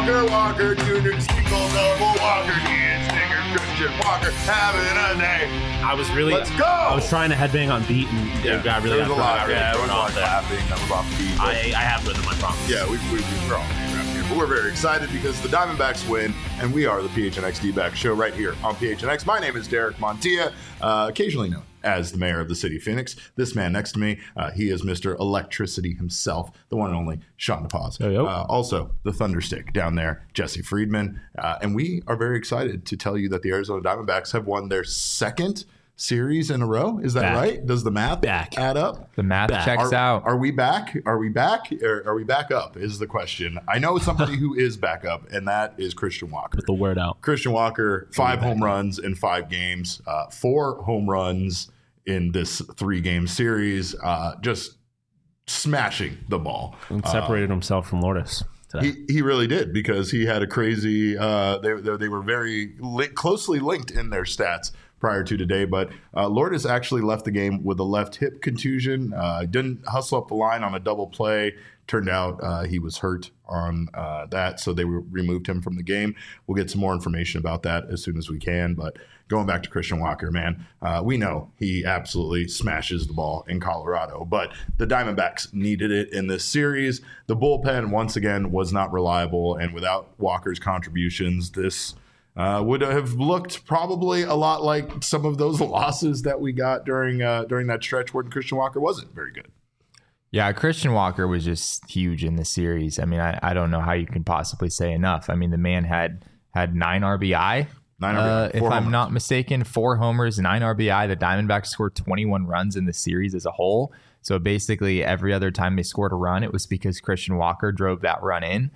Walker Jr., single double Walker, Ian Stinger, Christian Walker, having a day. Let's go. I was trying to headbang on beat, and there was a lot. There was a lot of laughing. That was off beat. I have rhythm, I promise. Yeah, we're all around here, but we're very excited because the Diamondbacks win, and we are the PHNX D-Back show right here on PHNX. My name is Derek Montilla, occasionally known as the mayor of the city of Phoenix. This man next to me, he is Mr. Electricity himself, the one and only Sean DePaz. Also, the Thunderstick down there, Jesse Friedman. And we are very excited to tell you that the Arizona Diamondbacks have won their second series in a row. Is that right? Does the math add up? The math checks out. Are we back? Are we back? Or are we back up is the question. I know somebody who is back up, and that is Christian Walker. Put the word out. Christian Walker, 5 home runs in 5 games, 4 home runs in this 3-game series, just smashing the ball. And separated himself from Lourdes today. He really did, because he had a crazy they were very closely linked in their stats prior to today, but Lourdes actually left the game with a left hip contusion. Didn't hustle up the line on a double play. Turned out he was hurt on that, so they removed him from the game. We'll get some more information about that as soon as we can, but going back to Christian Walker, man, we know he absolutely smashes the ball in Colorado, but the Diamondbacks needed it in this series. The bullpen, once again, was not reliable, and without Walker's contributions, this would have looked probably a lot like some of those losses that we got during that stretch when Christian Walker wasn't very good. Yeah, Christian Walker was just huge in the series. I mean, I don't know how you can possibly say enough. I mean, the man had 9 RBI. If I'm not mistaken, 4 homers, 9 RBI. The Diamondbacks scored 21 runs in the series as a whole. So basically, every other time they scored a run, it was because Christian Walker drove that run in.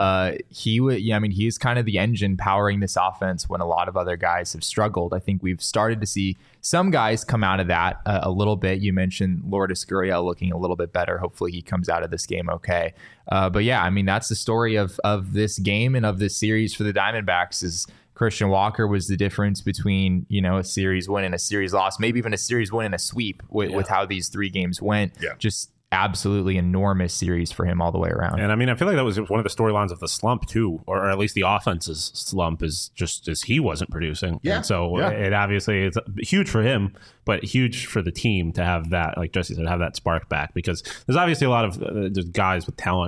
He's kind of the engine powering this offense when a lot of other guys have struggled. I think we've started to see some guys come out of that a little bit. You mentioned Lourdes Gurriel looking a little bit better. Hopefully, he comes out of this game okay. But yeah, I mean, that's the story of this game and of this series for the Diamondbacks is Christian Walker was the difference between, a series win and a series loss, maybe even a series win and a sweep with how these 3 games went. Yeah. Just absolutely enormous series for him all the way around. And I mean, I feel like that was one of the storylines of the slump too, or at least the offense's slump is just as he wasn't producing. Yeah. And so it obviously it's huge for him, but huge for the team to have that, like Jesse said, have that spark back, because there's obviously a lot of there's guys with talent,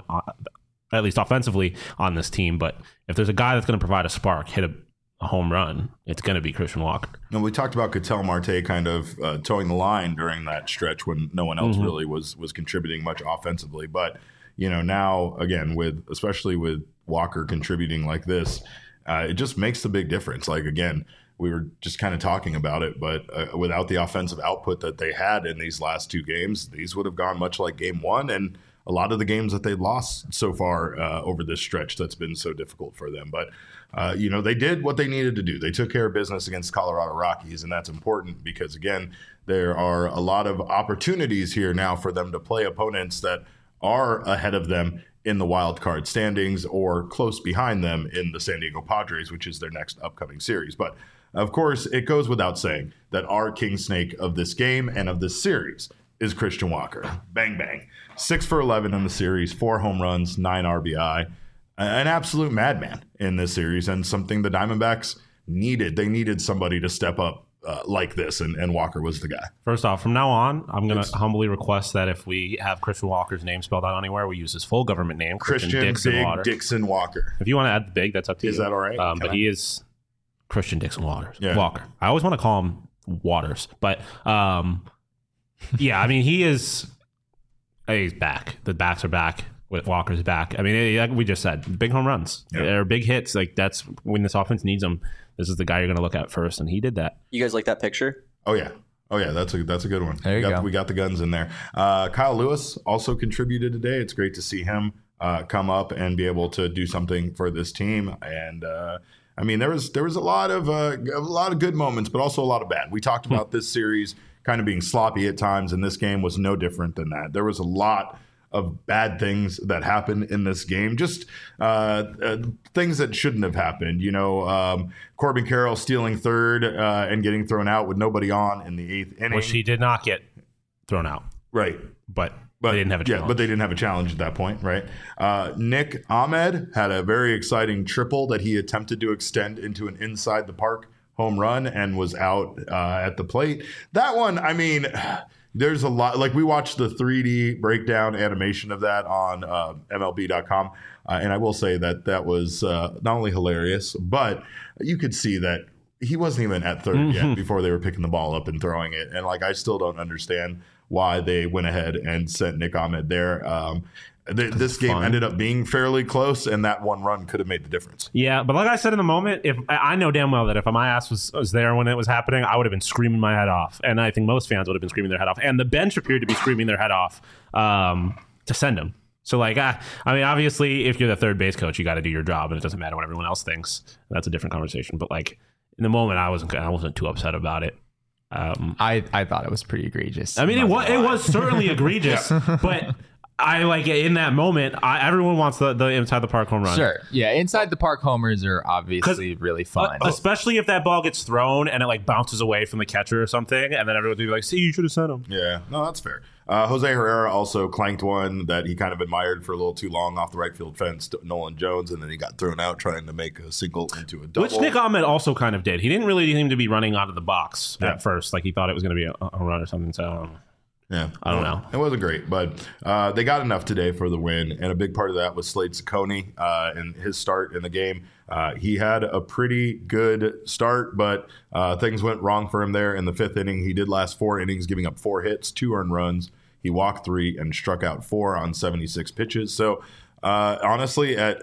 at least offensively, on this team. But if there's a guy that's going to provide a spark, hit a home run, it's going to be Christian Walker. And we talked about Ketel Marte kind of towing the line during that stretch when no one else really was contributing much offensively. But, now, again, especially with Walker contributing like this, it just makes the big difference. Like, again, we were just kind of talking about it, but without the offensive output that they had in these last 2 games, these would have gone much like game 1 and a lot of the games that they've lost so far over this stretch that's been so difficult for them. But, they did what they needed to do. They took care of business against Colorado Rockies, and that's important because, again, there are a lot of opportunities here now for them to play opponents that are ahead of them in the wild card standings or close behind them in the San Diego Padres, which is their next upcoming series. But, of course, it goes without saying that our king snake of this game and of this series is Christian Walker. Bang, bang. 6 for 11 in the series, 4 home runs, 9 RBI. An absolute madman in this series, and something the Diamondbacks needed. They needed somebody to step up like this, and Walker was the guy. First off, from now on, I'm going to humbly request that if we have Christian Walker's name spelled out anywhere, we use his full government name, Christian Dixon Walker. If you want to add the big, that's up to you. Is that all right? But he is Christian Dixon Walker. I always want to call him Waters, but yeah, I mean, he's back. The backs are back. With Walker's back. I mean, like we just said, big home runs. They're big hits. Like, that's when this offense needs them. This is the guy you're going to look at first, and he did that. You guys like that picture? Oh, yeah. That's a good one. There you go. We got the guns in there. Kyle Lewis also contributed today. It's great to see him come up and be able to do something for this team. And I mean, there was a lot of good moments, but also a lot of bad. We talked about this series kind of being sloppy at times, and this game was no different than that. There was a lot of bad things that happened in this game, just things that shouldn't have happened. Corbin Carroll stealing third and getting thrown out with nobody on in the 8th inning. Which he did not get thrown out. Right. But But they didn't have a challenge. Yeah, but they didn't have a challenge at that point, right? Nick Ahmed had a very exciting triple that he attempted to extend into an inside the park home run and was out at the plate. That one, I mean, there's a lot. Like, we watched the 3D breakdown animation of that on MLB.com, and I will say that was not only hilarious, but you could see that he wasn't even at third yet before they were picking the ball up and throwing it. And, like, I still don't understand why they went ahead and sent Nick Ahmed there. This game ended up being fairly close, and that one run could have made the difference. Yeah, but like I said in the moment, if I know damn well that if my ass was there when it was happening, I would have been screaming my head off. And I think most fans would have been screaming their head off. And the bench appeared to be screaming their head off to send him. So, like, I mean, obviously, if you're the third base coach, you got to do your job, and it doesn't matter what everyone else thinks. That's a different conversation. But, like, in the moment, I wasn't too upset about it. I thought it was pretty egregious. I mean, it was certainly egregious, but I like in that moment. Everyone wants the inside the park home run. Sure, yeah, inside the park homers are obviously really fun, especially if that ball gets thrown and it like bounces away from the catcher or something, and then everyone will be like, "See, you should have sent him." Yeah, no, that's fair. Jose Herrera also clanked one that he kind of admired for a little too long off the right field fence to Nolan Jones, and then he got thrown out trying to make a single into a double. Which Nick Ahmed also kind of did. He didn't really seem to be running out of the box at first. Like, he thought it was going to be a run or something. So, yeah, I don't know. It wasn't great, but they got enough today for the win, and a big part of that was Slade Cecconi in his start in the game. He had a pretty good start, but things went wrong for him there in the fifth inning. He did last 4 innings, giving up 4 hits, 2 earned runs. He walked 3 and struck out 4 on 76 pitches. So honestly, at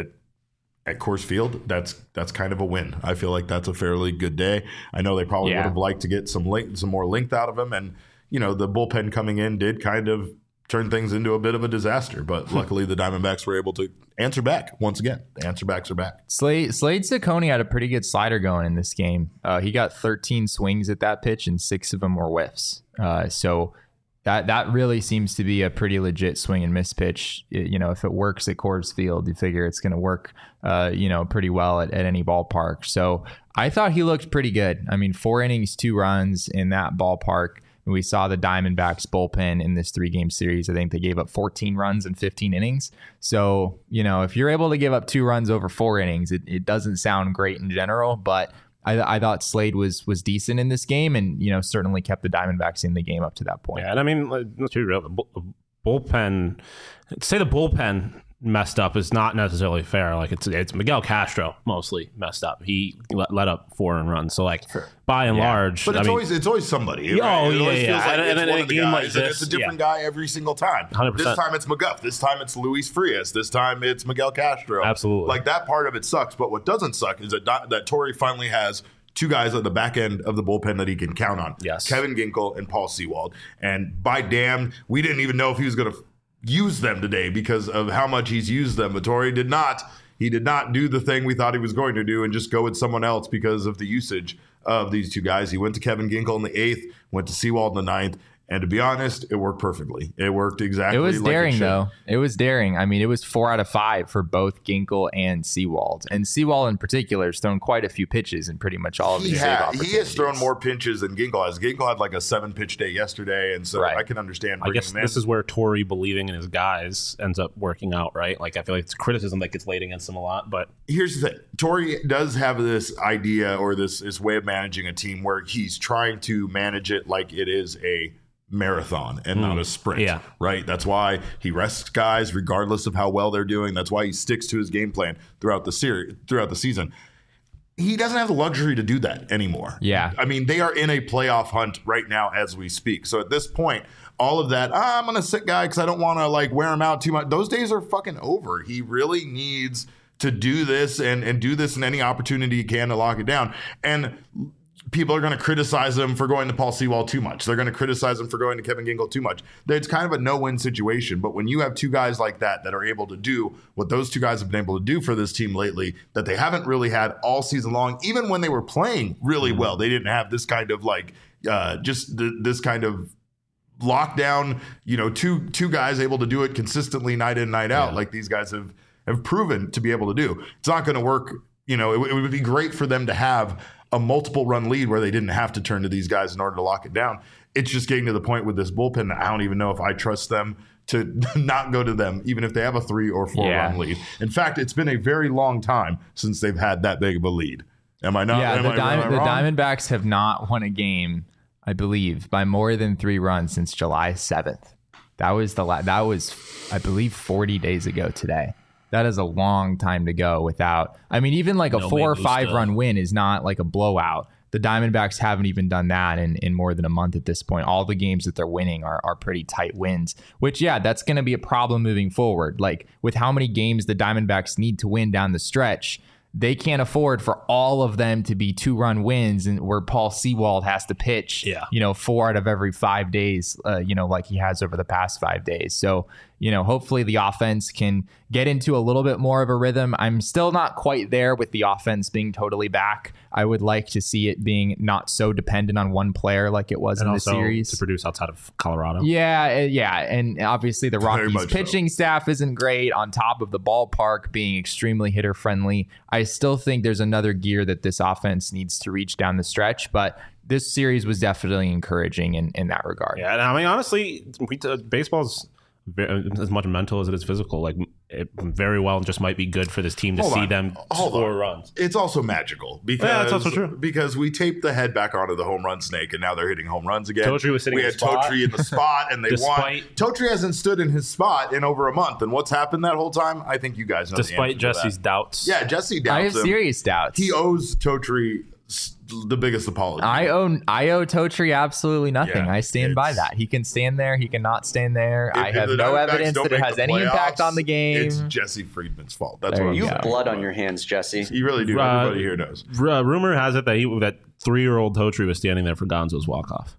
Coors Field, that's kind of a win. I feel like that's a fairly good day. I know they probably would have liked to get some more length out of him, and you know, the bullpen coming in did kind of turn things into a bit of a disaster. But luckily, the Diamondbacks were able to answer back once again. The answerbacks are back. Slade Cecconi had a pretty good slider going in this game. He got 13 swings at that pitch, and 6 of them were whiffs. So that really seems to be a pretty legit swing and miss pitch. You know, if it works at Coors Field, you figure it's going to work, pretty well at any ballpark. So I thought he looked pretty good. I mean, 4 innings, 2 runs in that ballpark. We saw the Diamondbacks bullpen in this 3-game series. I think they gave up 14 runs in 15 innings. So, you know, if you're able to give up 2 runs over 4 innings, it doesn't sound great in general, but I thought Slade was decent in this game, and you know, certainly kept the Diamondbacks in the game up to that point. Yeah, and I mean, let's be real. The bullpen, to say the bullpen messed up is not necessarily fair. Like, it's Miguel Castro mostly messed up. He let up 4 earned runs. So, like, by and large, but it's always somebody. Right? Oh, it always feels like and in a game like this, it's a different guy every single time. 100%. This time it's McGuff. This time it's Luis Frias. This time it's Miguel Castro. Absolutely. Like, that part of it sucks. But what doesn't suck is that Torey finally has 2 guys at the back end of the bullpen that he can count on. Yes. Kevin Ginkel and Paul Sewald. And by damn, we didn't even know if he was going to use them today because of how much he's used them. But Torey did not. He did not do the thing we thought he was going to do and just go with someone else because of the usage of these 2 guys. He went to Kevin Ginkel in the 8th, went to Sewald in the 9th. And to be honest, it worked perfectly. It worked exactly like it should. It was daring, though. It was daring. I mean, it was 4 out of 5 for both Ginkel and Sewald. And Sewald in particular has thrown quite a few pitches in pretty much all of his save opportunities. He has thrown more pitches than Ginkel has. Ginkel had like a 7-pitch day yesterday, and so I can understand bringing him in. This is where Torey believing in his guys ends up working out, right? Like, I feel like it's criticism that gets laid against him a lot, but here's the thing. Torey does have this idea or this way of managing a team where he's trying to manage it like it is a marathon and not a sprint, right? That's why he rests guys regardless of how well they're doing. That's why he sticks to his game plan throughout the season. He doesn't have the luxury to do that anymore. Yeah. I mean, they are in a playoff hunt right now as we speak. So at this point, all of that, I'm going to sit guy because I don't want to like wear him out too much. Those days are fucking over. He really needs to do this and do this in any opportunity he can to lock it down. And people are going to criticize him for going to Paul Sewald too much. They're going to criticize him for going to Kevin Ginkel too much. It's kind of a no-win situation. But when you have 2 guys like that are able to do what those 2 guys have been able to do for this team lately that they haven't really had all season long, even when they were playing really well, they didn't have this kind of like this kind of lockdown, you know, two guys able to do it consistently night in, night out, like these guys have proven to be able to do. It's not going to work. You know, it would be great for them to have a multiple run lead where they didn't have to turn to these guys in order to lock it down. It's just getting to the point with this bullpen that I don't even know if I trust them to not go to them, even if they have a 3 or 4 run lead. In fact, it's been a very long time since they've had that big of a lead. Am I not? Yeah, the Diamondbacks have not won a game, I believe, by more than 3 runs since July 7th. That was I believe 40 days ago today. That is a long time to go without. I mean, even like a 4 or 5 run win is not like a blowout. The Diamondbacks haven't even done that in more than a month at this point. All the games that they're winning are pretty tight wins, which, yeah, that's going to be a problem moving forward. Like, with how many games the Diamondbacks need to win down the stretch, they can't afford for all of them to be 2-run wins, and where Paul Sewald has to pitch, 4 out of every 5 days, like he has over the past 5 days. So, hopefully the offense can get into a little bit more of a rhythm. I'm still not quite there with the offense being totally back. I would like to see it being not so dependent on one player like it was in the series. To produce outside of Colorado. Yeah. And obviously the Rockies pitching staff isn't great, on top of the ballpark being extremely hitter friendly. I still think there's another gear that this offense needs to reach down the stretch, but this series was definitely encouraging in that regard. Yeah, and I mean, honestly, baseball's as much mental as it is physical. Like, it very well just might be good for this team to see them score runs. It's also magical because that's also true. Because we taped the head back onto the home run snake, and now they're hitting home runs again. Totri was sitting. We had Totri in the spot, and they won. Totri hasn't stood in his spot in over a month, and what's happened that whole time? I think you guys know. Despite Jesse's doubts, Jesse doubts. I have serious doubts. He owes Totri the biggest apology. I owe Totri absolutely nothing. I stand by that. He can stand there. He cannot stand there. I have no evidence that it has any impact on the game. It's Jesse Friedman's fault. That's what you have blood on your hands, Jesse. You really do. Everybody here knows. Rumor has it that that 3-year-old Totri was standing there for Gonzo's walk-off.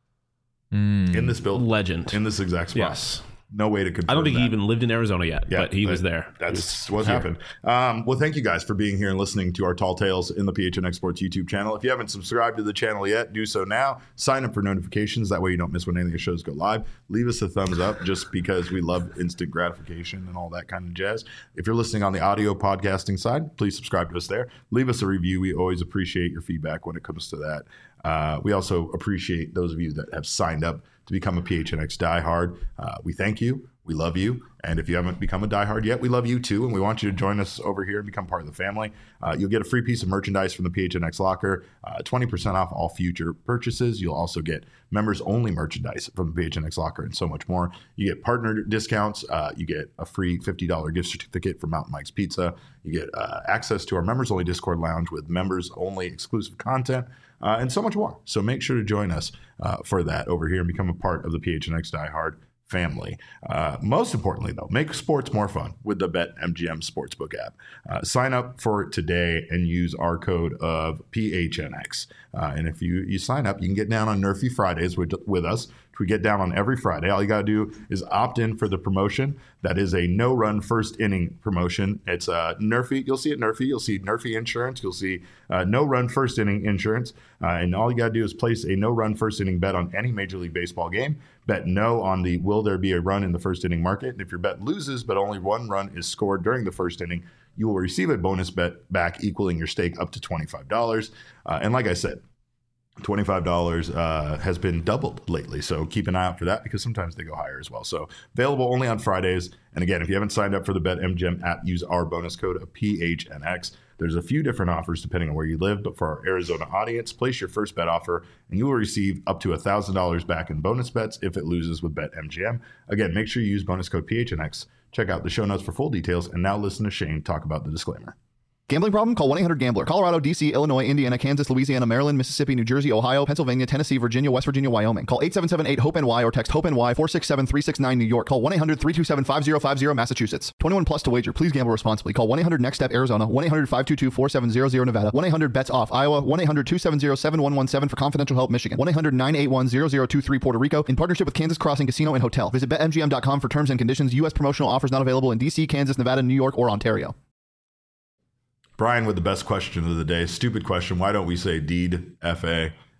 In this building. Legend. In this exact spot. Yes. No way to confirm I don't think that. he even lived in Arizona yet, but he was there. That's what happened. Well, thank you guys for being here and listening to our Tall Tales in the PHNX Sports YouTube channel. If you haven't subscribed to the channel yet, do so now. Sign up for notifications. That way you don't miss when any of the shows go live. Leave us a thumbs up just because we love instant gratification and all that kind of jazz. If you're listening on the audio podcasting side, please subscribe to us there. Leave us a review. We always appreciate your feedback when it comes to that. We also appreciate those of you that have signed up to become a PHNX diehard. We thank you. We love you. And if you haven't become a diehard yet, we love you too. And we want you to join us over here and become part of the family. You'll get a free piece of merchandise from the PHNX locker, 20% off all future purchases. You'll also get members only merchandise from the PHNX locker and so much more. You get partner discounts. You get a free $50 gift certificate from Mountain Mike's Pizza. You get access to our members only Discord lounge with members only exclusive content. And so much more. So make sure to join us for that over here and become a part of the PHNX diehard family. Most importantly, though, make sports more fun with the BetMGM Sportsbook app. Sign up for it today and use our code of PHNX. And if you sign up, you can get down on Nerfy Fridays with us. We get down on every Friday. All you got to do is opt in for the promotion. That is a no-run first inning promotion. It's Nerfy. You'll see it Nerfy. You'll see Nerfy insurance. You'll see no-run first inning insurance. And all you got to do is place a no-run first inning bet on any Major League Baseball game. Bet no on the will there be a run in the first inning market. And if your bet loses but only one run is scored during the first inning, you will receive a bonus bet back equaling your stake up to $25. And like I said, $25 has been doubled lately, so keep an eye out for that because sometimes they go higher as well. So available only on Fridays. And again, if you haven't signed up for the BetMGM app, use our bonus code of PHNX. There's a few different offers depending on where you live, but for our Arizona audience, place your first bet offer and you will receive up to $1,000 back in bonus bets if it loses with BetMGM. Again, make sure you use bonus code PHNX. Check out the show notes for full details, and now listen to Shane talk about the disclaimer. Gambling problem? Call 1-800-GAMBLER. Colorado, D.C., Illinois, Indiana, Kansas, Louisiana, Maryland, Mississippi, New Jersey, Ohio, Pennsylvania, Tennessee, Virginia, West Virginia, Wyoming. Call 877-8-HOPE-NY or text HOPE-NY 467-369 New York. Call 1-800-327-5050 Massachusetts. 21 plus to wager. Please gamble responsibly. Call 1-800-NEXT-STEP Arizona. 1-800-522-4700 Nevada. 1-800-BETS-OFF Iowa. 1-800-270-7117 for confidential help Michigan. 1-800-981-0023 Puerto Rico. In partnership with Kansas Crossing Casino and Hotel. Visit BetMGM.com for terms and conditions. U.S. promotional offers not available in D.C., Kansas, Nevada, New York, or Ontario. Brian with the best question of the day. Stupid question. Why don't we say Deed, F-A?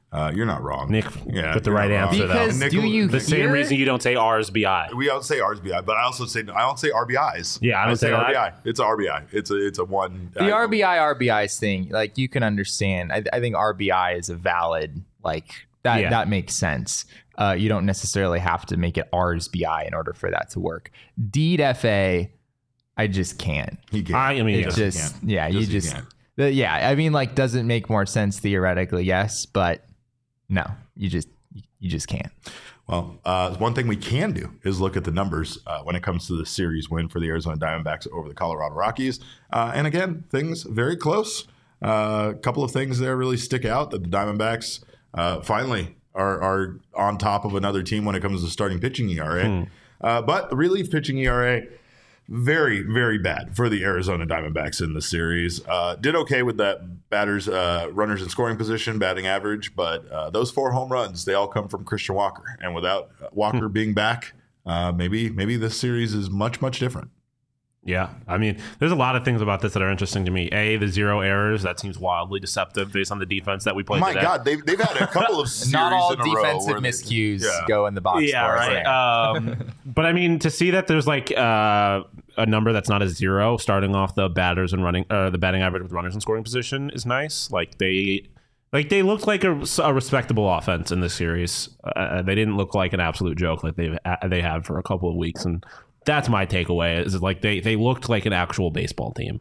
You're not wrong, Nick. With the right answer, because though. The same reason you don't say RSBI. We don't say RSBI, but I don't say RBIs. Yeah, I don't say RBI. It's a RBI. It's a one. The RBIs thing, like, you can understand. I think RBI is a valid, like, that. Yeah. That makes sense. You don't necessarily have to make it RSBI in order for that to work. Deed FA, I just can't. He can't. I mean, it just yeah, you just yeah. I mean, like, does it make more sense theoretically? Yes, but no, you just can't. Well, one thing we can do is look at the numbers when it comes to the series win for the Arizona Diamondbacks over the Colorado Rockies. And again, things very close. A couple of things there really stick out that the Diamondbacks finally are on top of another team when it comes to starting pitching ERA. But the relief pitching ERA, very, very bad for the Arizona Diamondbacks in the series. Did okay with that batters, runners in scoring position, batting average, but those 4 home runs, they all come from Christian Walker. And without Walker being back, maybe this series is much, much different. Yeah, I mean, there's a lot of things about this that are interesting to me. The 0 errors, that seems wildly deceptive based on the defense that we played today. My God, they've had a couple of series not all in a row defensive miscues go in the box. Yeah, right. But I mean, to see that there's like a number that's not a 0 starting off the batters and running, the batting average with runners in scoring position is nice. Like they looked like a respectable offense in this series. They didn't look like an absolute joke like they have for a couple of weeks, and that's my takeaway. Is like they looked like an actual baseball team.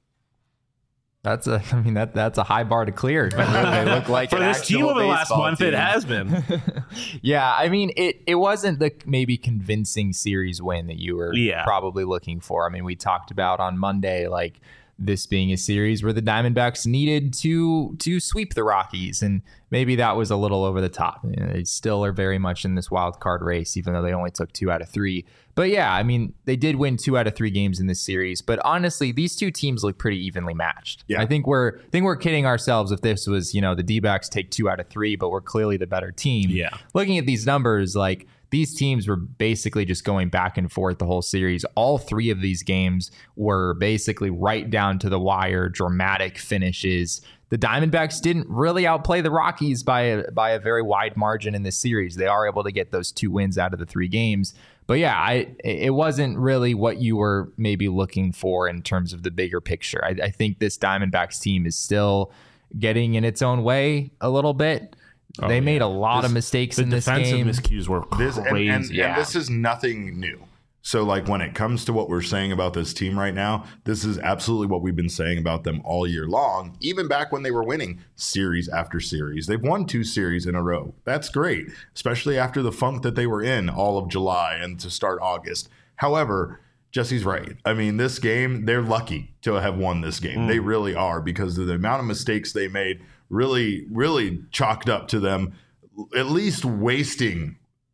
That's a high bar to clear. They look like for this team over the last month. It has been. Yeah, I mean, it wasn't the maybe convincing series win that you were probably looking for. I mean, we talked about on Monday, like, this being a series where the Diamondbacks needed to sweep the Rockies, and maybe that was a little over the top. You know, they still are very much in this wild card race, even though they only took 2 out of 3. But yeah, I mean, they did win 2 out of 3 games in this series. But honestly, these two teams look pretty evenly matched. Yeah. I think we're kidding ourselves if this was, the D-backs take 2 out of 3, but we're clearly the better team. Yeah. Looking at these numbers, like, these teams were basically just going back and forth the whole series. All 3 of these games were basically right down to the wire, dramatic finishes. The Diamondbacks didn't really outplay the Rockies by a very wide margin in this series. They are able to get those 2 wins out of the 3 games. But yeah, it wasn't really what you were maybe looking for in terms of the bigger picture. I think this Diamondbacks team is still getting in its own way a little bit. They made a lot of mistakes in this game. The defensive miscues were crazy. And this is nothing new. So, like, when it comes to what we're saying about this team right now, this is absolutely what we've been saying about them all year long, even back when they were winning series after series. They've won 2 series in a row. That's great, especially after the funk that they were in all of July and to start August. However, Jesse's right. I mean, this game, they're lucky to have won this game. They really are, because of the amount of mistakes they made really, really chalked up to them at least wasting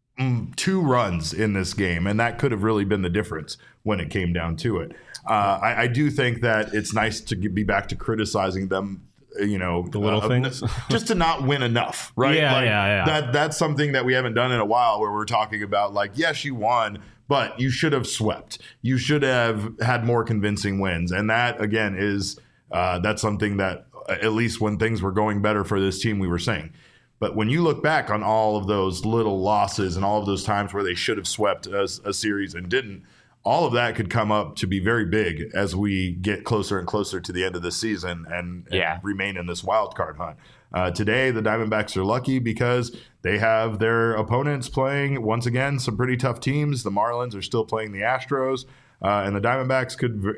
2 runs in this game, and that could have really been the difference when it came down to it. I do think that it's nice to be back to criticizing them, the little things, just to not win enough, right? Yeah. That's something that we haven't done in a while, where we're talking about, like, yes, you won, but you should have swept. You should have had more convincing wins, and that, again, is that's something that, at least when things were going better for this team, we were saying. But when you look back on all of those little losses and all of those times where they should have swept a series and didn't, all of that could come up to be very big as we get closer and closer to the end of the season and remain in this wild card hunt. Today, the Diamondbacks are lucky because they have their opponents playing, once again, some pretty tough teams. The Marlins are still playing the Astros. And the Diamondbacks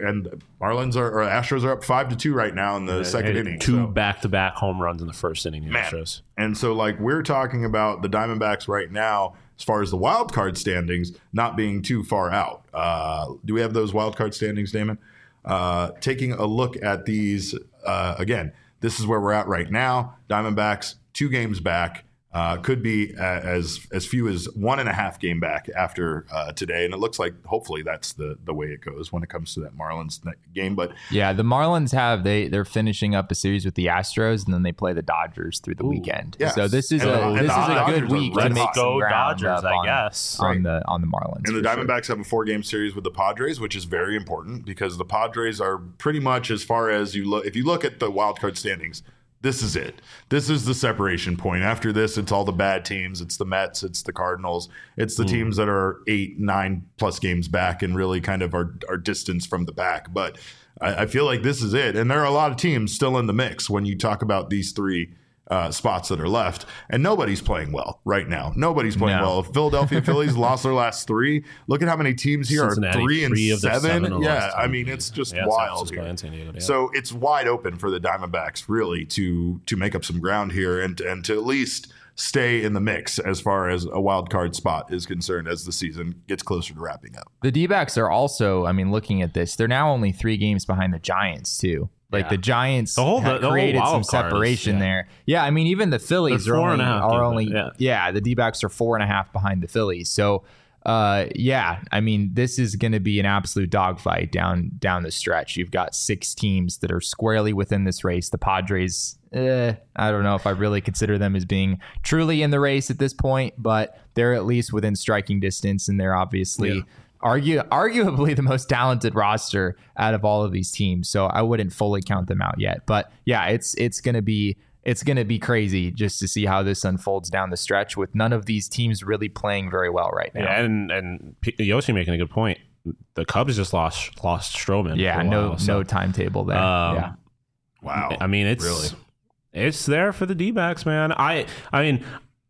Astros are up 5-2 right now in the second inning. 2 back-to-back home runs in the first inning. The Astros. And so, like, we're talking about the Diamondbacks right now, as far as the wild card standings, not being too far out. Do we have those wild card standings, Damon? Taking a look at these again, this is where we're at right now. Diamondbacks 2 games back. Could be as few as 1.5 game back after today, and it looks like hopefully that's the way it goes when it comes to that Marlins game. But yeah, the Marlins they're finishing up a series with the Astros, and then they play the Dodgers through the weekend. Yes. So this is a good week to make some ground Dodgers, I guess, on the Marlins. And the Diamondbacks have a 4-game series with the Padres, which is very important because the Padres are pretty much, as far as if you look at the wild card standings, this is it. This is the separation point. After this, it's all the bad teams. It's the Mets. It's the Cardinals. It's the teams that are 8-9 plus games back and really kind of are distance from the back. But I feel like this is it. And there are a lot of teams still in the mix when you talk about these three spots that are left, and nobody's playing well right now. Nobody's playing well. Philadelphia Phillies lost their last 3. Look at how many teams here Cincinnati, are 3-7. Yeah, I mean, it's just wild here. Diego, so it's wide open for the Diamondbacks really to make up some ground here and to at least stay in the mix as far as a wild card spot is concerned as the season gets closer to wrapping up. The D-backs are also, I mean, looking at this, they're now only 3 games behind the Giants too. Like the Giants created some separation there. Yeah, I mean, even the Phillies are only the D-backs are 4.5 behind the Phillies. So, I mean, this is going to be an absolute dogfight down the stretch. You've got 6 teams that are squarely within this race. The Padres, I don't know if I really consider them as being truly in the race at this point, but they're at least within striking distance, and they're obviously arguably the most talented roster out of all of these teams. So I wouldn't fully count them out yet. But yeah, it's gonna be crazy just to see how this unfolds down the stretch with none of these teams really playing very well right now. Yeah, and Yoshi making a good point. The Cubs just lost Stroman. Yeah, no timetable there. Wow. I mean, it's there for the D-backs, man. I mean,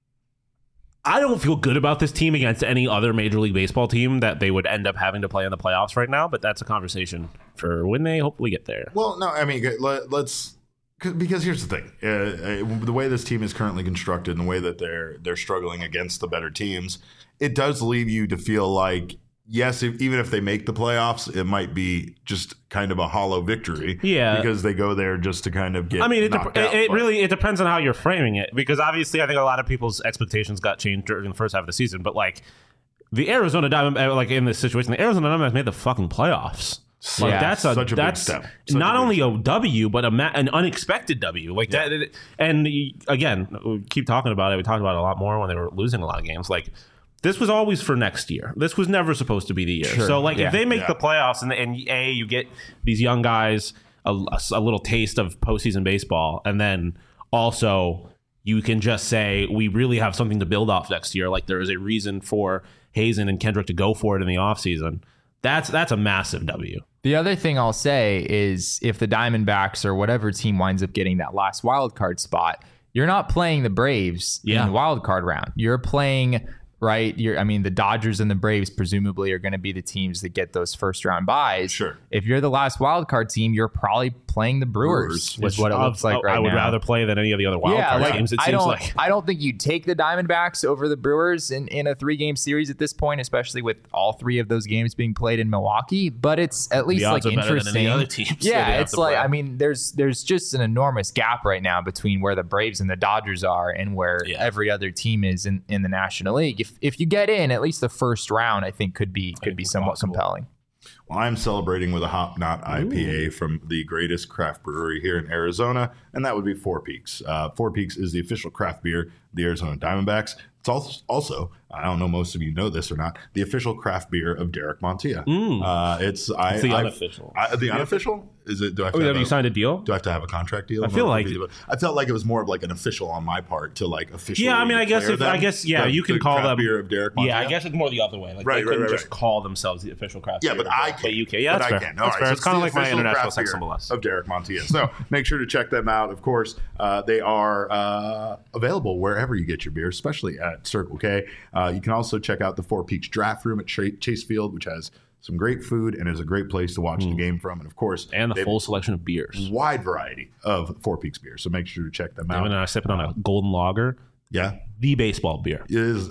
I don't feel good about this team against any other Major League Baseball team that they would end up having to play in the playoffs right now, but that's a conversation for when they hopefully get there. Well, no, I mean, because here's the thing. The way this team is currently constructed and the way that they're struggling against the better teams, it does leave you to feel like, yes, even if they make the playoffs, it might be just kind of a hollow victory. Yeah. Because they go there just to kind of get knocked out. It depends on how you're framing it. Because obviously, I think a lot of people's expectations got changed during the first half of the season. But like the Arizona Diamondbacks, like in this situation, the Arizona Diamondbacks made the fucking playoffs. Like that's such a big step. Not only a W, but an unexpected W. Like that. And again, we keep talking about it. We talked about it a lot more when they were losing a lot of games. Like, this was always for next year. This was never supposed to be the year. Sure. So, if they make the playoffs and you get these young guys a little taste of postseason baseball, and then also you can just say we really have something to build off next year. Like there is a reason for Hazen and Kendrick to go for it in the offseason. That's a massive W. The other thing I'll say is if the Diamondbacks or whatever team winds up getting that last wild card spot, you're not playing the Braves in the wild card round. You're playing. Right, the Dodgers and the Braves presumably are going to be the teams that get those first round buys. Sure. If you're the last wild card team, you're probably playing the Brewers is what it looks like right now. I would rather play than any of the other wild card teams. It seems like I don't think you'd take the Diamondbacks over the Brewers in a 3-game series at this point, especially with all 3 of those games being played in Milwaukee. But it's at least interesting. Than any other teams it's there's just an enormous gap right now between where the Braves and the Dodgers are and where every other team is in the National League. If you get in, at least the first round, I think could be somewhat compelling. Well, I'm celebrating with a Hop Knot IPA from the greatest craft brewery here in Arizona, and that would be Four Peaks. Four Peaks is the official craft beer of the Arizona Diamondbacks. It's also, I don't know most of you know this or not, the official craft beer of Derek Montilla. It's the unofficial. The unofficial? Is it? Have you signed a deal? Do I have to have a contract deal? I feel like I felt like it was more of like an official on my part to like officially. Yeah, I mean, I guess you can call them beer of Derek Montilla. Yeah, I guess it's more the other way. Like they couldn't just call themselves the official craft beer. Yeah, but I can. UK. Yeah, that's fair. That's fair. It's kind of like my international sex symbol of Derek Montilla. So make sure to check them out. Of course, they are available wherever you get your beer, especially at Circle K. You can also check out the Four Peaks Draft Room at Chase Field, which has some great food and is a great place to watch the game from. And of course, and the full selection of beers, wide variety of Four Peaks beers. So make sure to check them out. And I'm sipping on a Golden Lager. Yeah, the baseball beer. It is.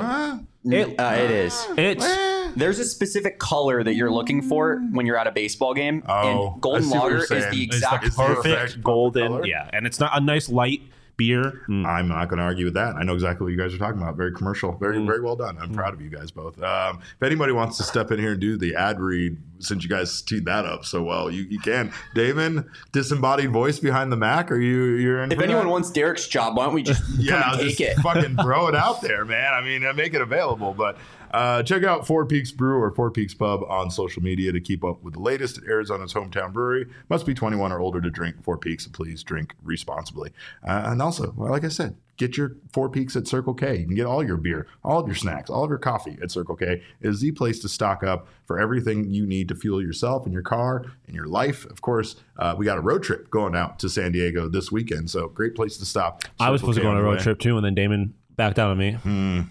It is. There's a specific color that you're looking for when you're at a baseball game. And Golden Lager is the exact perfect golden color. Yeah, and it's not a nice light beer. I'm not going to argue with that. I know exactly what you guys are talking about. Very commercial. Very well done. I'm proud of you guys both. If anybody wants to step in here and do the ad read, since you guys teed that up so well, you can. Damon, disembodied voice behind the Mac. Are you're in? If anyone wants Derek's job, why don't we just take it? Fucking throw it out there, man. I mean, make it available. But check out Four Peaks Brew or Four Peaks Pub on social media to keep up with the latest at Arizona's hometown brewery. Must be 21 or older to drink Four Peaks, and please drink responsibly. And also, like I said, get your Four Peaks at Circle K. You can get all your beer, all of your snacks, all of your coffee at Circle K. It is the place to stock up for everything you need to fuel yourself and your car and your life. Of course, we got a road trip going out to San Diego this weekend, so great place to stop. I was supposed to go on a road trip too, and then Damon backed out on me.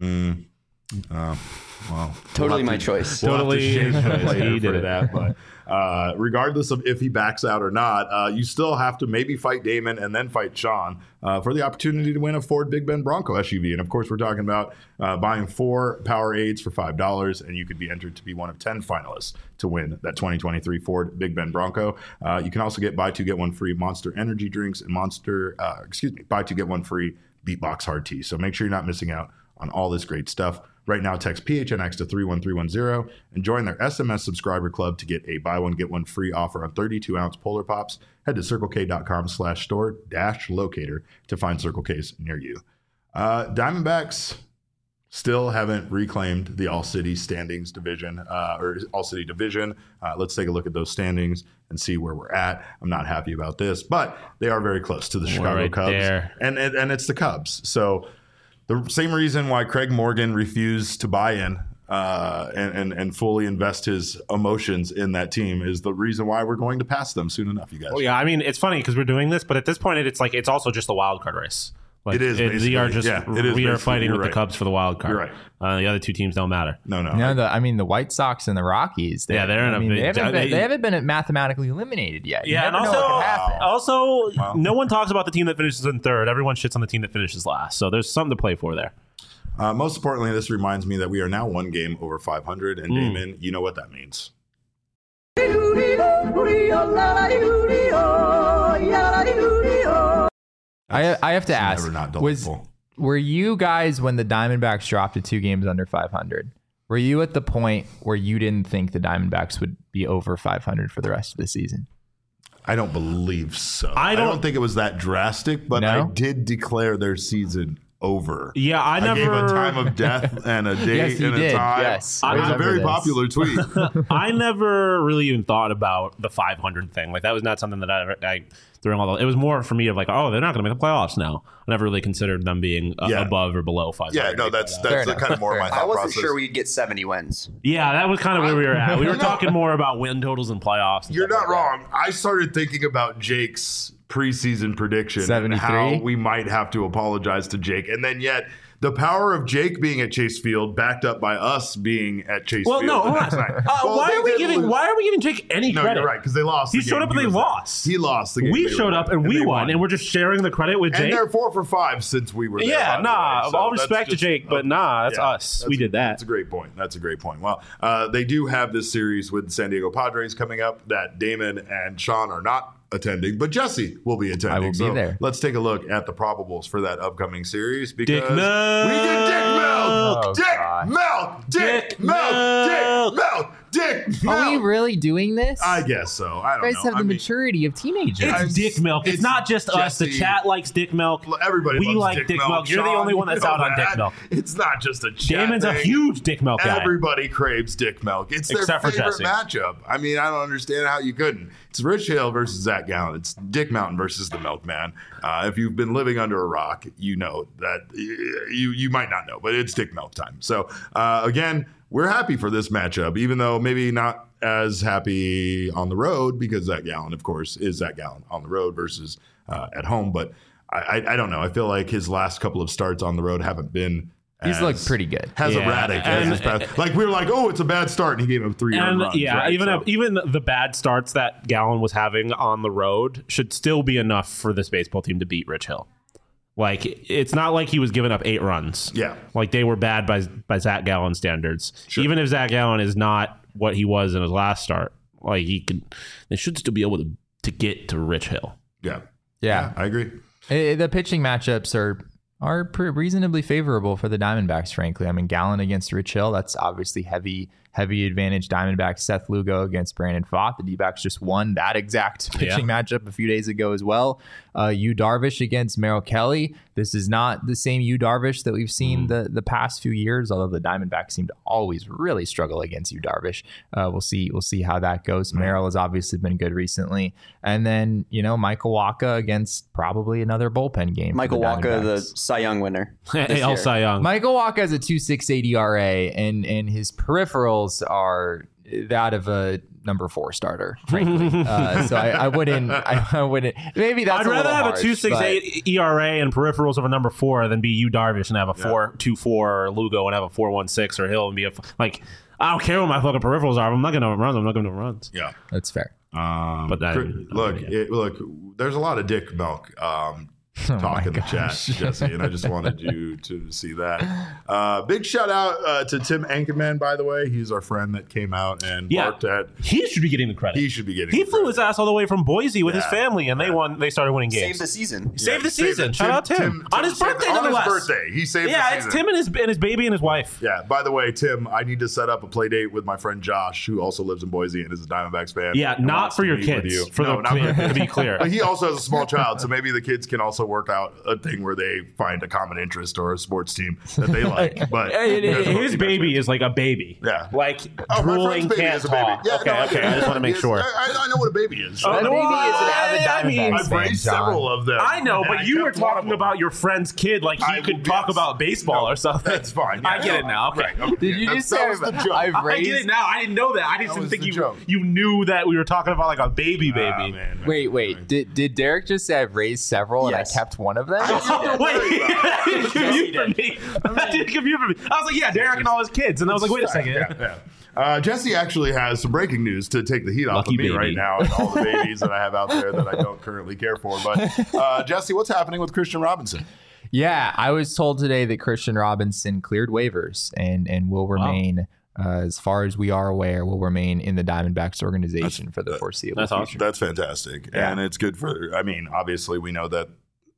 Well, totally my choice. Totally his choice. He did that, but regardless of if he backs out or not, you still have to maybe fight Damon and then fight Sean for the opportunity to win a Ford Big Bend Bronco SUV. And of course, we're talking about buying 4 Powerades for $5, and you could be entered to be one of 10 finalists to win that 2023 Ford Big Bend Bronco. You can also get buy 2 get 1 free Monster energy drinks and buy 2 get 1 free Beatbox hard tea. So make sure you're not missing out on all this great stuff. Right now, text PHNX to 31310 and join their SMS subscriber club to get a buy 1, get 1 free offer on 32-ounce Polar Pops. Head to circlek.com/store-locator to find Circle K's near you. Diamondbacks still haven't reclaimed the All-City standings division, or All-City division. Let's take a look at those standings and see where we're at. I'm not happy about this, but they are very close to the Chicago Cubs. There. And it's the Cubs. So the same reason why Craig Morgan refused to buy in and fully invest his emotions in that team is the reason why we're going to pass them soon enough, you guys. Well, yeah, I mean, it's funny because we're doing this, but at this point, it's also just a wild card race. Like, it is. We are fighting with right. the Cubs for the wild card. You're right. The other two teams don't matter. No. The White Sox and the Rockies. They haven't been mathematically eliminated yet. Yeah, and also, no one talks about the team that finishes in third. Everyone shits on the team that finishes last. So there's something to play for there. Most importantly, this reminds me that we are now 1 game over 500, and Damon, you know what that means. I have to ask, were you guys, when the Diamondbacks dropped to 2 games under 500, were you at the point where you didn't think the Diamondbacks would be over 500 for the rest of the season? I don't believe so. I don't think it was that drastic, but I did declare their season over. Yeah, I never gave a time of death and a date and a time. Yes, it was a very popular tweet. I never really even thought about the 500 thing. Like, that was not something that I during all the, it was more for me of like, oh, they're not going to make the playoffs now. I never really considered them being above or below 500. Yeah, no, that's kind of more my thought process. I wasn't sure we'd get 70 wins. Yeah, that was kind of where we were at. We were talking more about win totals and playoffs. You're not wrong. I started thinking about Jake's preseason prediction 73? and how we might have to apologize to Jake. And then yet the power of Jake being at Chase Field backed up by us being at Chase Field. No, hold on. Why are we giving Jake any credit? You're right, because they lost. He showed up and they lost. He lost the game. We showed up and we won, and we're just sharing the credit with Jake. And they're 4 for 5 since we were there. Yeah, all respect to Jake, but that's us. We did that. That's a great point. Well, they do have this series with the San Diego Padres coming up that Damon and Sean are not attending, but Jesse will be attending. I will be there. Let's take a look at the probables for that upcoming series because Dick Milk. We get Dick Milk. Dick Milk. Are we really doing this? I guess so. I don't know. You guys have the maturity of teenagers. It's Dick Milk. It's not just us. The chat likes Dick Milk. Everybody we loves like Dick Milk. You're Sean, the only one that's out on Dick Milk. It's not just a chat Damon's thing. a huge Dick Milk guy. Everybody craves Dick Milk. It's their favorite matchup. I mean, I don't understand how you couldn't. It's Rich Hill versus Zach Gallen. It's Dick Mountain versus the Milkman. If you've been living under a rock, you know that you might not know, but it's Dick Milk time. So again, we're happy for this matchup, even though maybe not as happy on the road because Zach Gallen, of course, is Zach Gallen on the road versus at home. But I don't know. I feel like his last couple of starts on the road haven't been. He's looked pretty good. Erratic as his past. Like we were like, oh, it's a bad start, and he gave him 3 runs. Yeah, right? even the bad starts that Gallen was having on the road should still be enough for this baseball team to beat Rich Hill. Like, it's not like he was giving up 8 runs. Yeah, like they were bad by Zach Gallen standards. Sure. Even if Zach Gallen is not what he was in his last start, like they should still be able to get to Rich Hill. Yeah, I agree. The pitching matchups are reasonably favorable for the Diamondbacks, frankly. I mean, Gallen against Rich Hill, that's obviously heavy heavy advantage Diamondbacks. Seth Lugo against Brandon Pfaadt. The D-backs just won that exact pitching matchup a few days ago as well. Yu Darvish against Merrill Kelly. This is not the same Yu Darvish that we've seen the past few years, although the Diamondbacks seem to always really struggle against Yu Darvish. We'll see how that goes. Merrill has obviously been good recently. And then, Michael Wacha against probably another bullpen game. Michael Wacha, the Cy Young winner. AL Cy Young. Michael Wacha has a 2.68 ERA, and his peripherals are that of a number 4 starter, frankly. So I wouldn't. Maybe that's. I'd rather have a 2.68 ERA and peripherals of a number 4 than be Yu Darvish and have a 4.24 or Lugo and have a 4.16 or Hill and be like. I don't care what my fucking peripherals are. I'm not going to run. I'm not going to runs. Yeah, that's fair. But look, there's a lot of dick milk talk in the chat, Jesse, and I just wanted you to see that. Big shout out to Tim Anchorman, by the way. He's our friend that came out and barked at. He should be getting the credit. He flew his ass all the way from Boise with his family, and they started winning games. Save the season. Save the season. Shout out Tim. On his birthday, nonetheless. On his birthday, he saved the season. Yeah, it's Tim and his baby and his wife. Yeah. By the way, Tim, I need to set up a play date with my friend Josh, who also lives in Boise and is a Diamondbacks fan. Yeah, not for your kids. To be clear. But he also has a small child, so maybe the kids can also work out a thing where they find a common interest or a sports team that they like. But his baby is like a baby. Yeah. Like drooling can't talk. Yeah, okay. I just want to make sure. I know what a baby is. A baby is an avid Diamondbacks I've raised several of them. I know, but you were talking about your friend's kid like he could talk about baseball or something. That's fine. I get it now. Okay. Did you just say I get it now. I didn't know that. I just didn't think you knew that we were talking about like a baby. Wait. Did Derek just say I've raised several and I kept one of them? Wait, that didn't compute for me. I was like, yeah, Derek and all his kids. And I was like, wait a second. Jesse actually has some breaking news to take the heat off of me right now and all the babies that I have out there that I don't currently care for. But Jesse, what's happening with Christian Robinson? Yeah, I was told today that Christian Robinson cleared waivers and will remain, as far as we are aware, will remain in the Diamondbacks organization for the foreseeable future. Awesome. That's fantastic. Yeah. And it's good for, obviously we know that,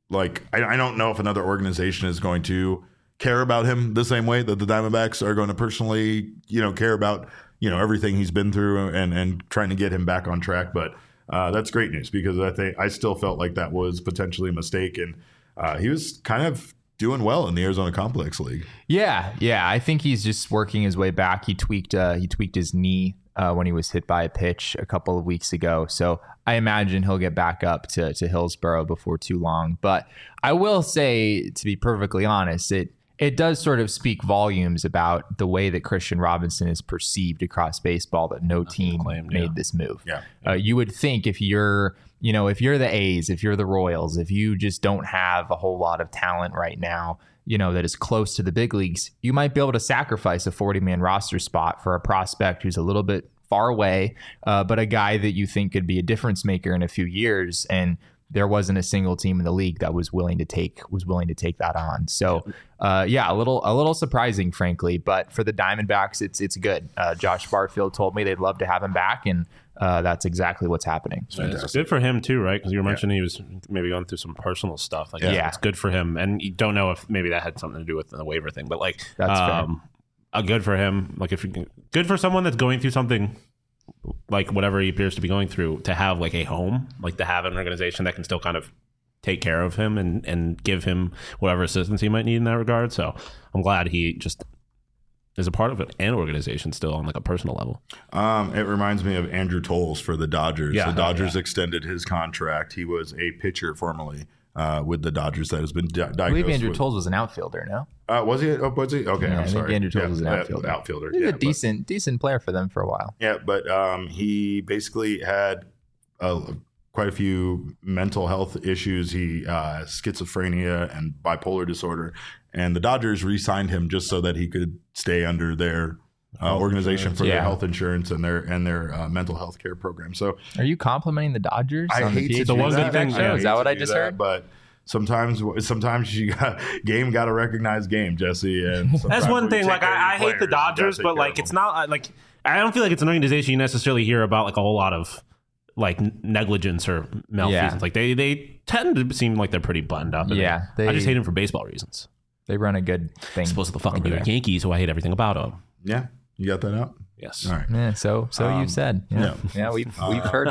I don't know if another organization is going to care about him the same way that the Diamondbacks are going to personally, care about, everything he's been through and trying to get him back on track. But that's great news because I still felt like that was potentially a mistake. And he was kind of doing well in the Arizona Complex League. Yeah. I think he's just working his way back. He tweaked his knee when he was hit by a pitch a couple of weeks ago. So I imagine he'll get back up to Hillsboro before too long. But I will say, to be perfectly honest, it does sort of speak volumes about the way that Christian Robinson is perceived across baseball, that no team made this move. Yeah. You would think if you're the A's, if you're the Royals, if you just don't have a whole lot of talent right now, that is close to the big leagues, you might be able to sacrifice a 40-man roster spot for a prospect who's a little bit far away, but a guy that you think could be a difference maker in a few years. And there wasn't a single team in the league that was willing to take that on. So, a little surprising, frankly. But for the Diamondbacks, it's good. Josh Barfield told me they'd love to have him back, and that's exactly what's happening. It's good for him too, right? Because you were mentioning he was maybe going through some personal stuff. It's good for him, and you don't know if maybe that had something to do with the waiver thing. But that's fair. Good for him. Good for someone that's going through something like whatever he appears to be going through, to have a home, to have an organization that can still kind of take care of him and give him whatever assistance he might need in that regard. So I'm glad he just is a part of an organization still on a personal level. It reminds me of Andrew Toles for the Dodgers. The Dodgers extended his contract. He was a pitcher formerly with the Dodgers that has been diagnosed. I believe Andrew Toles was an outfielder, no? Was he? Was he? Okay, I'm sorry. Andrew Toles was an outfielder. He was a decent player for them for a while. Yeah, but he basically had quite a few mental health issues. He has schizophrenia and bipolar disorder, and the Dodgers re-signed him just so that he could stay under their organization for their health insurance and their mental health care program. So, are you complimenting the Dodgers? I hate to do that. Is that what I just heard? But sometimes game got to recognize game, Jesse. And that's one thing. I hate the Dodgers, but it's not I don't feel like it's an organization you necessarily hear about a whole lot of negligence or malfeasance. They tend to seem like they're pretty buttoned up. Yeah, I just hate them for baseball reasons. They run a good thing. Supposed to the fucking New York Yankees, who I hate everything about them. Yeah. You got that out? Yes. All right. Yeah, so you've said. Yeah, we've heard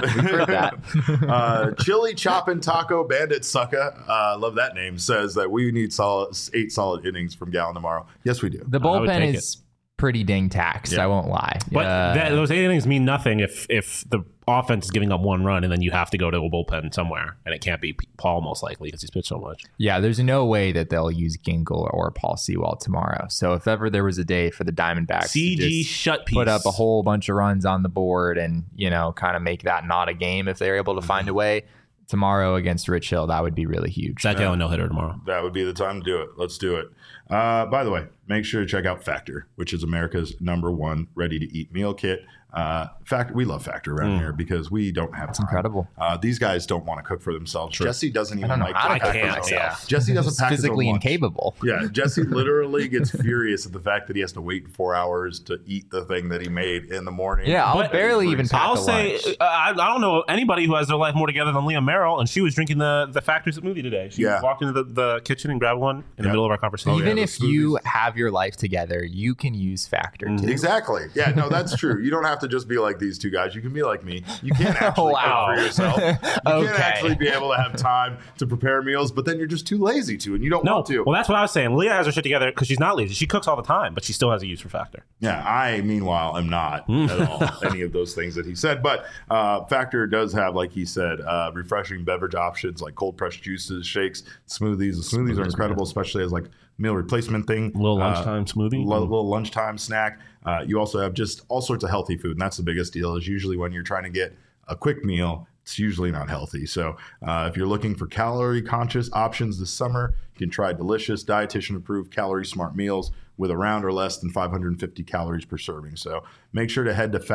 that. Chili Choppin' Taco Bandit Sucker, love that name, says that we need 8 solid innings from Gallen tomorrow. Yes, we do. The bullpen is pretty dang taxed. I won't lie. But those 8 innings mean nothing if the offense is giving up 1 run and then you have to go to a bullpen somewhere, and it can't be Paul most likely because he's pitched so much. Yeah, there's no way that they'll use Ginkel or Paul Sewald tomorrow. So if ever there was a day for the Diamondbacks CG shut piece, put up a whole bunch of runs on the board and kind of make that not a game if they're able to find a way tomorrow against Rich Hill, that would be really huge. Zach Gallen no-hitter tomorrow. That would be the time to do it. Let's do it. By the way, make sure to check out Factor, which is America's #1 ready-to-eat meal kit. Factor, we love Factor around here because we don't have time. Incredible. These guys don't want to cook for themselves. Sure. Jesse doesn't even like to pack for himself. Yeah. Jesse doesn't pack physically incapable. Yeah, Jesse literally gets furious at the fact that he has to wait 4 hours to eat the thing that he made in the morning. Yeah, I'll barely even pack I'll say, I don't know anybody who has their life more together than Leah Merrill, and she was drinking the Factor smoothie today. She walked into the kitchen and grabbed one in the middle of our conversation. Even if you have your life together, you can use Factor too. Exactly. Yeah, no, that's true. You don't have to just be like these two guys. You can be like me. You can't actually cook for yourself. You can't actually be able to have time to prepare meals, but then you're just too lazy to, and you don't want to. Well, that's what I was saying. Leah has her shit together because she's not lazy. She cooks all the time, but she still has a use for Factor. Yeah, I, meanwhile, am not at all any of those things that he said. But Factor does have, like he said, refreshing beverage options like cold pressed juices, shakes, smoothies. The smoothies are incredible, especially as like meal replacement thing. Little lunchtime smoothie. Little lunchtime snack. You also have just all sorts of healthy food, and that's the biggest deal. Is usually when you're trying to get a quick meal, it's usually not healthy. So if you're looking for calorie-conscious options this summer, you can try delicious, dietitian-approved, calorie-smart meals with around or less than 550 calories per serving. So make sure to head to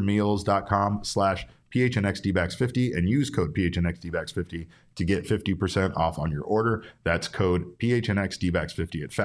factormeals.com/PHNXDBACS50 and use code PHNXDBACS50 to get 50% off on your order. That's code PHNXDBACS50 at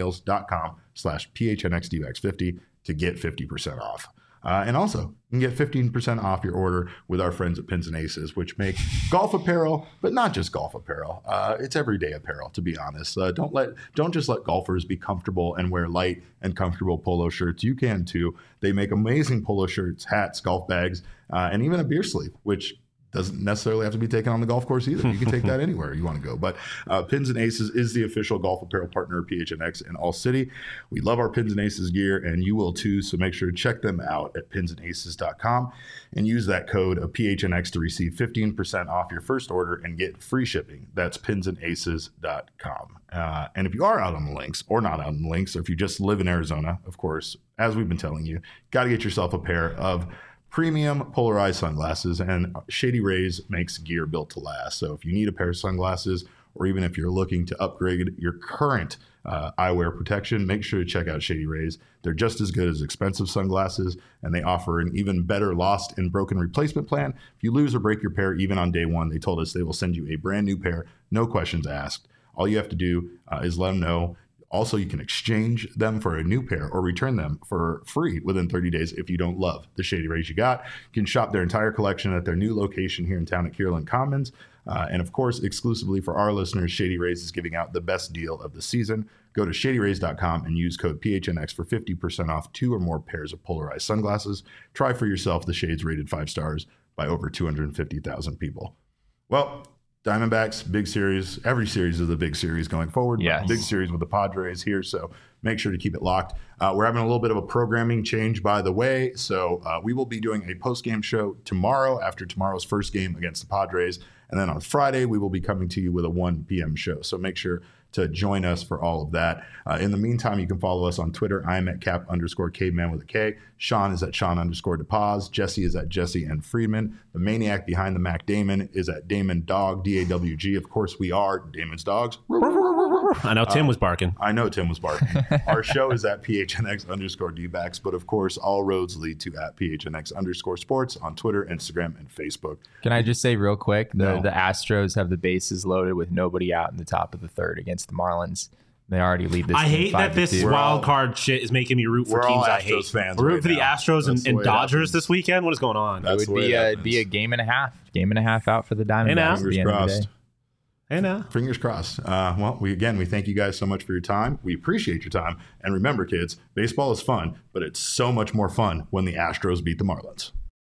factormeals.com/PHNXDBACS50 to get 50% off. And also, you can get 15% off your order with our friends at Pins and Aces, which make golf apparel, but not just golf apparel. It's everyday apparel, to be honest. Don't just let golfers be comfortable and wear light and comfortable polo shirts. You can too. They make amazing polo shirts, hats, golf bags, and even a beer sleeve, which doesn't necessarily have to be taken on the golf course either. You can take that anywhere you want to go. But Pins and Aces is the official golf apparel partner of PHNX in All City. We love our Pins and Aces gear, and you will too. So make sure to check them out at pinsandaces.com and use that code of PHNX to receive 15% off your first order and get free shipping. That's pinsandaces.com. And if you are out on the links or not out on the links, or if you just live in Arizona, of course, as we've been telling you, got to get yourself a pair of premium polarized sunglasses, and Shady Rays makes gear built to last. So if you need a pair of sunglasses, or even if you're looking to upgrade your current eyewear protection, make sure to check out Shady Rays. They're just as good as expensive sunglasses, and they offer an even better lost and broken replacement plan. If you lose or break your pair, even on day one, they told us they will send you a brand new pair, no questions asked. All you have to do is let them know. Also, you can exchange them for a new pair or return them for free within 30 days if you don't love the Shady Rays you got. You can shop their entire collection at their new location here in town at Kierland Commons. And of course, exclusively for our listeners, Shady Rays is giving out the best deal of the season. Go to shadyrays.com and use code PHNX for 50% off 2 or more pairs of polarized sunglasses. Try for yourself the shades rated 5 stars by over 250,000 people. Well, Diamondbacks, big series. Every series is a big series going forward. Yes. Big series with the Padres here, so make sure to keep it locked. We're having a little bit of a programming change, by the way. So we will be doing a post-game show tomorrow after tomorrow's first game against the Padres. And then on Friday, we will be coming to you with a 1 p.m. show. So make sure to join us for all of that. In the meantime, you can follow us on Twitter. I'm at Cap_Caveman with a K. Sean is at Sean_DePaz. Jesse is at Jesse and Friedman. The maniac behind the Mac Damon is at Damon Dog, DAWG. Of course, we are Damon's dogs. I know Tim was barking. I know Tim was barking. Our show is at PHNX_DBACS, but of course, all roads lead to at PHNX_sports on Twitter, Instagram, and Facebook. Can I just say real quick, the Astros have the bases loaded with nobody out in the top of the third against the Marlins. They already lead this. I hate that this wild card shit is making me root for teams I hate. Fans root for the Astros and Dodgers this weekend. What is going on? It would be a game and a half out for the Diamondbacks at the end of the day. Fingers crossed. Well, we thank you guys so much for your time. We appreciate your time. And remember, kids, baseball is fun, but it's so much more fun when the Astros beat the Marlins.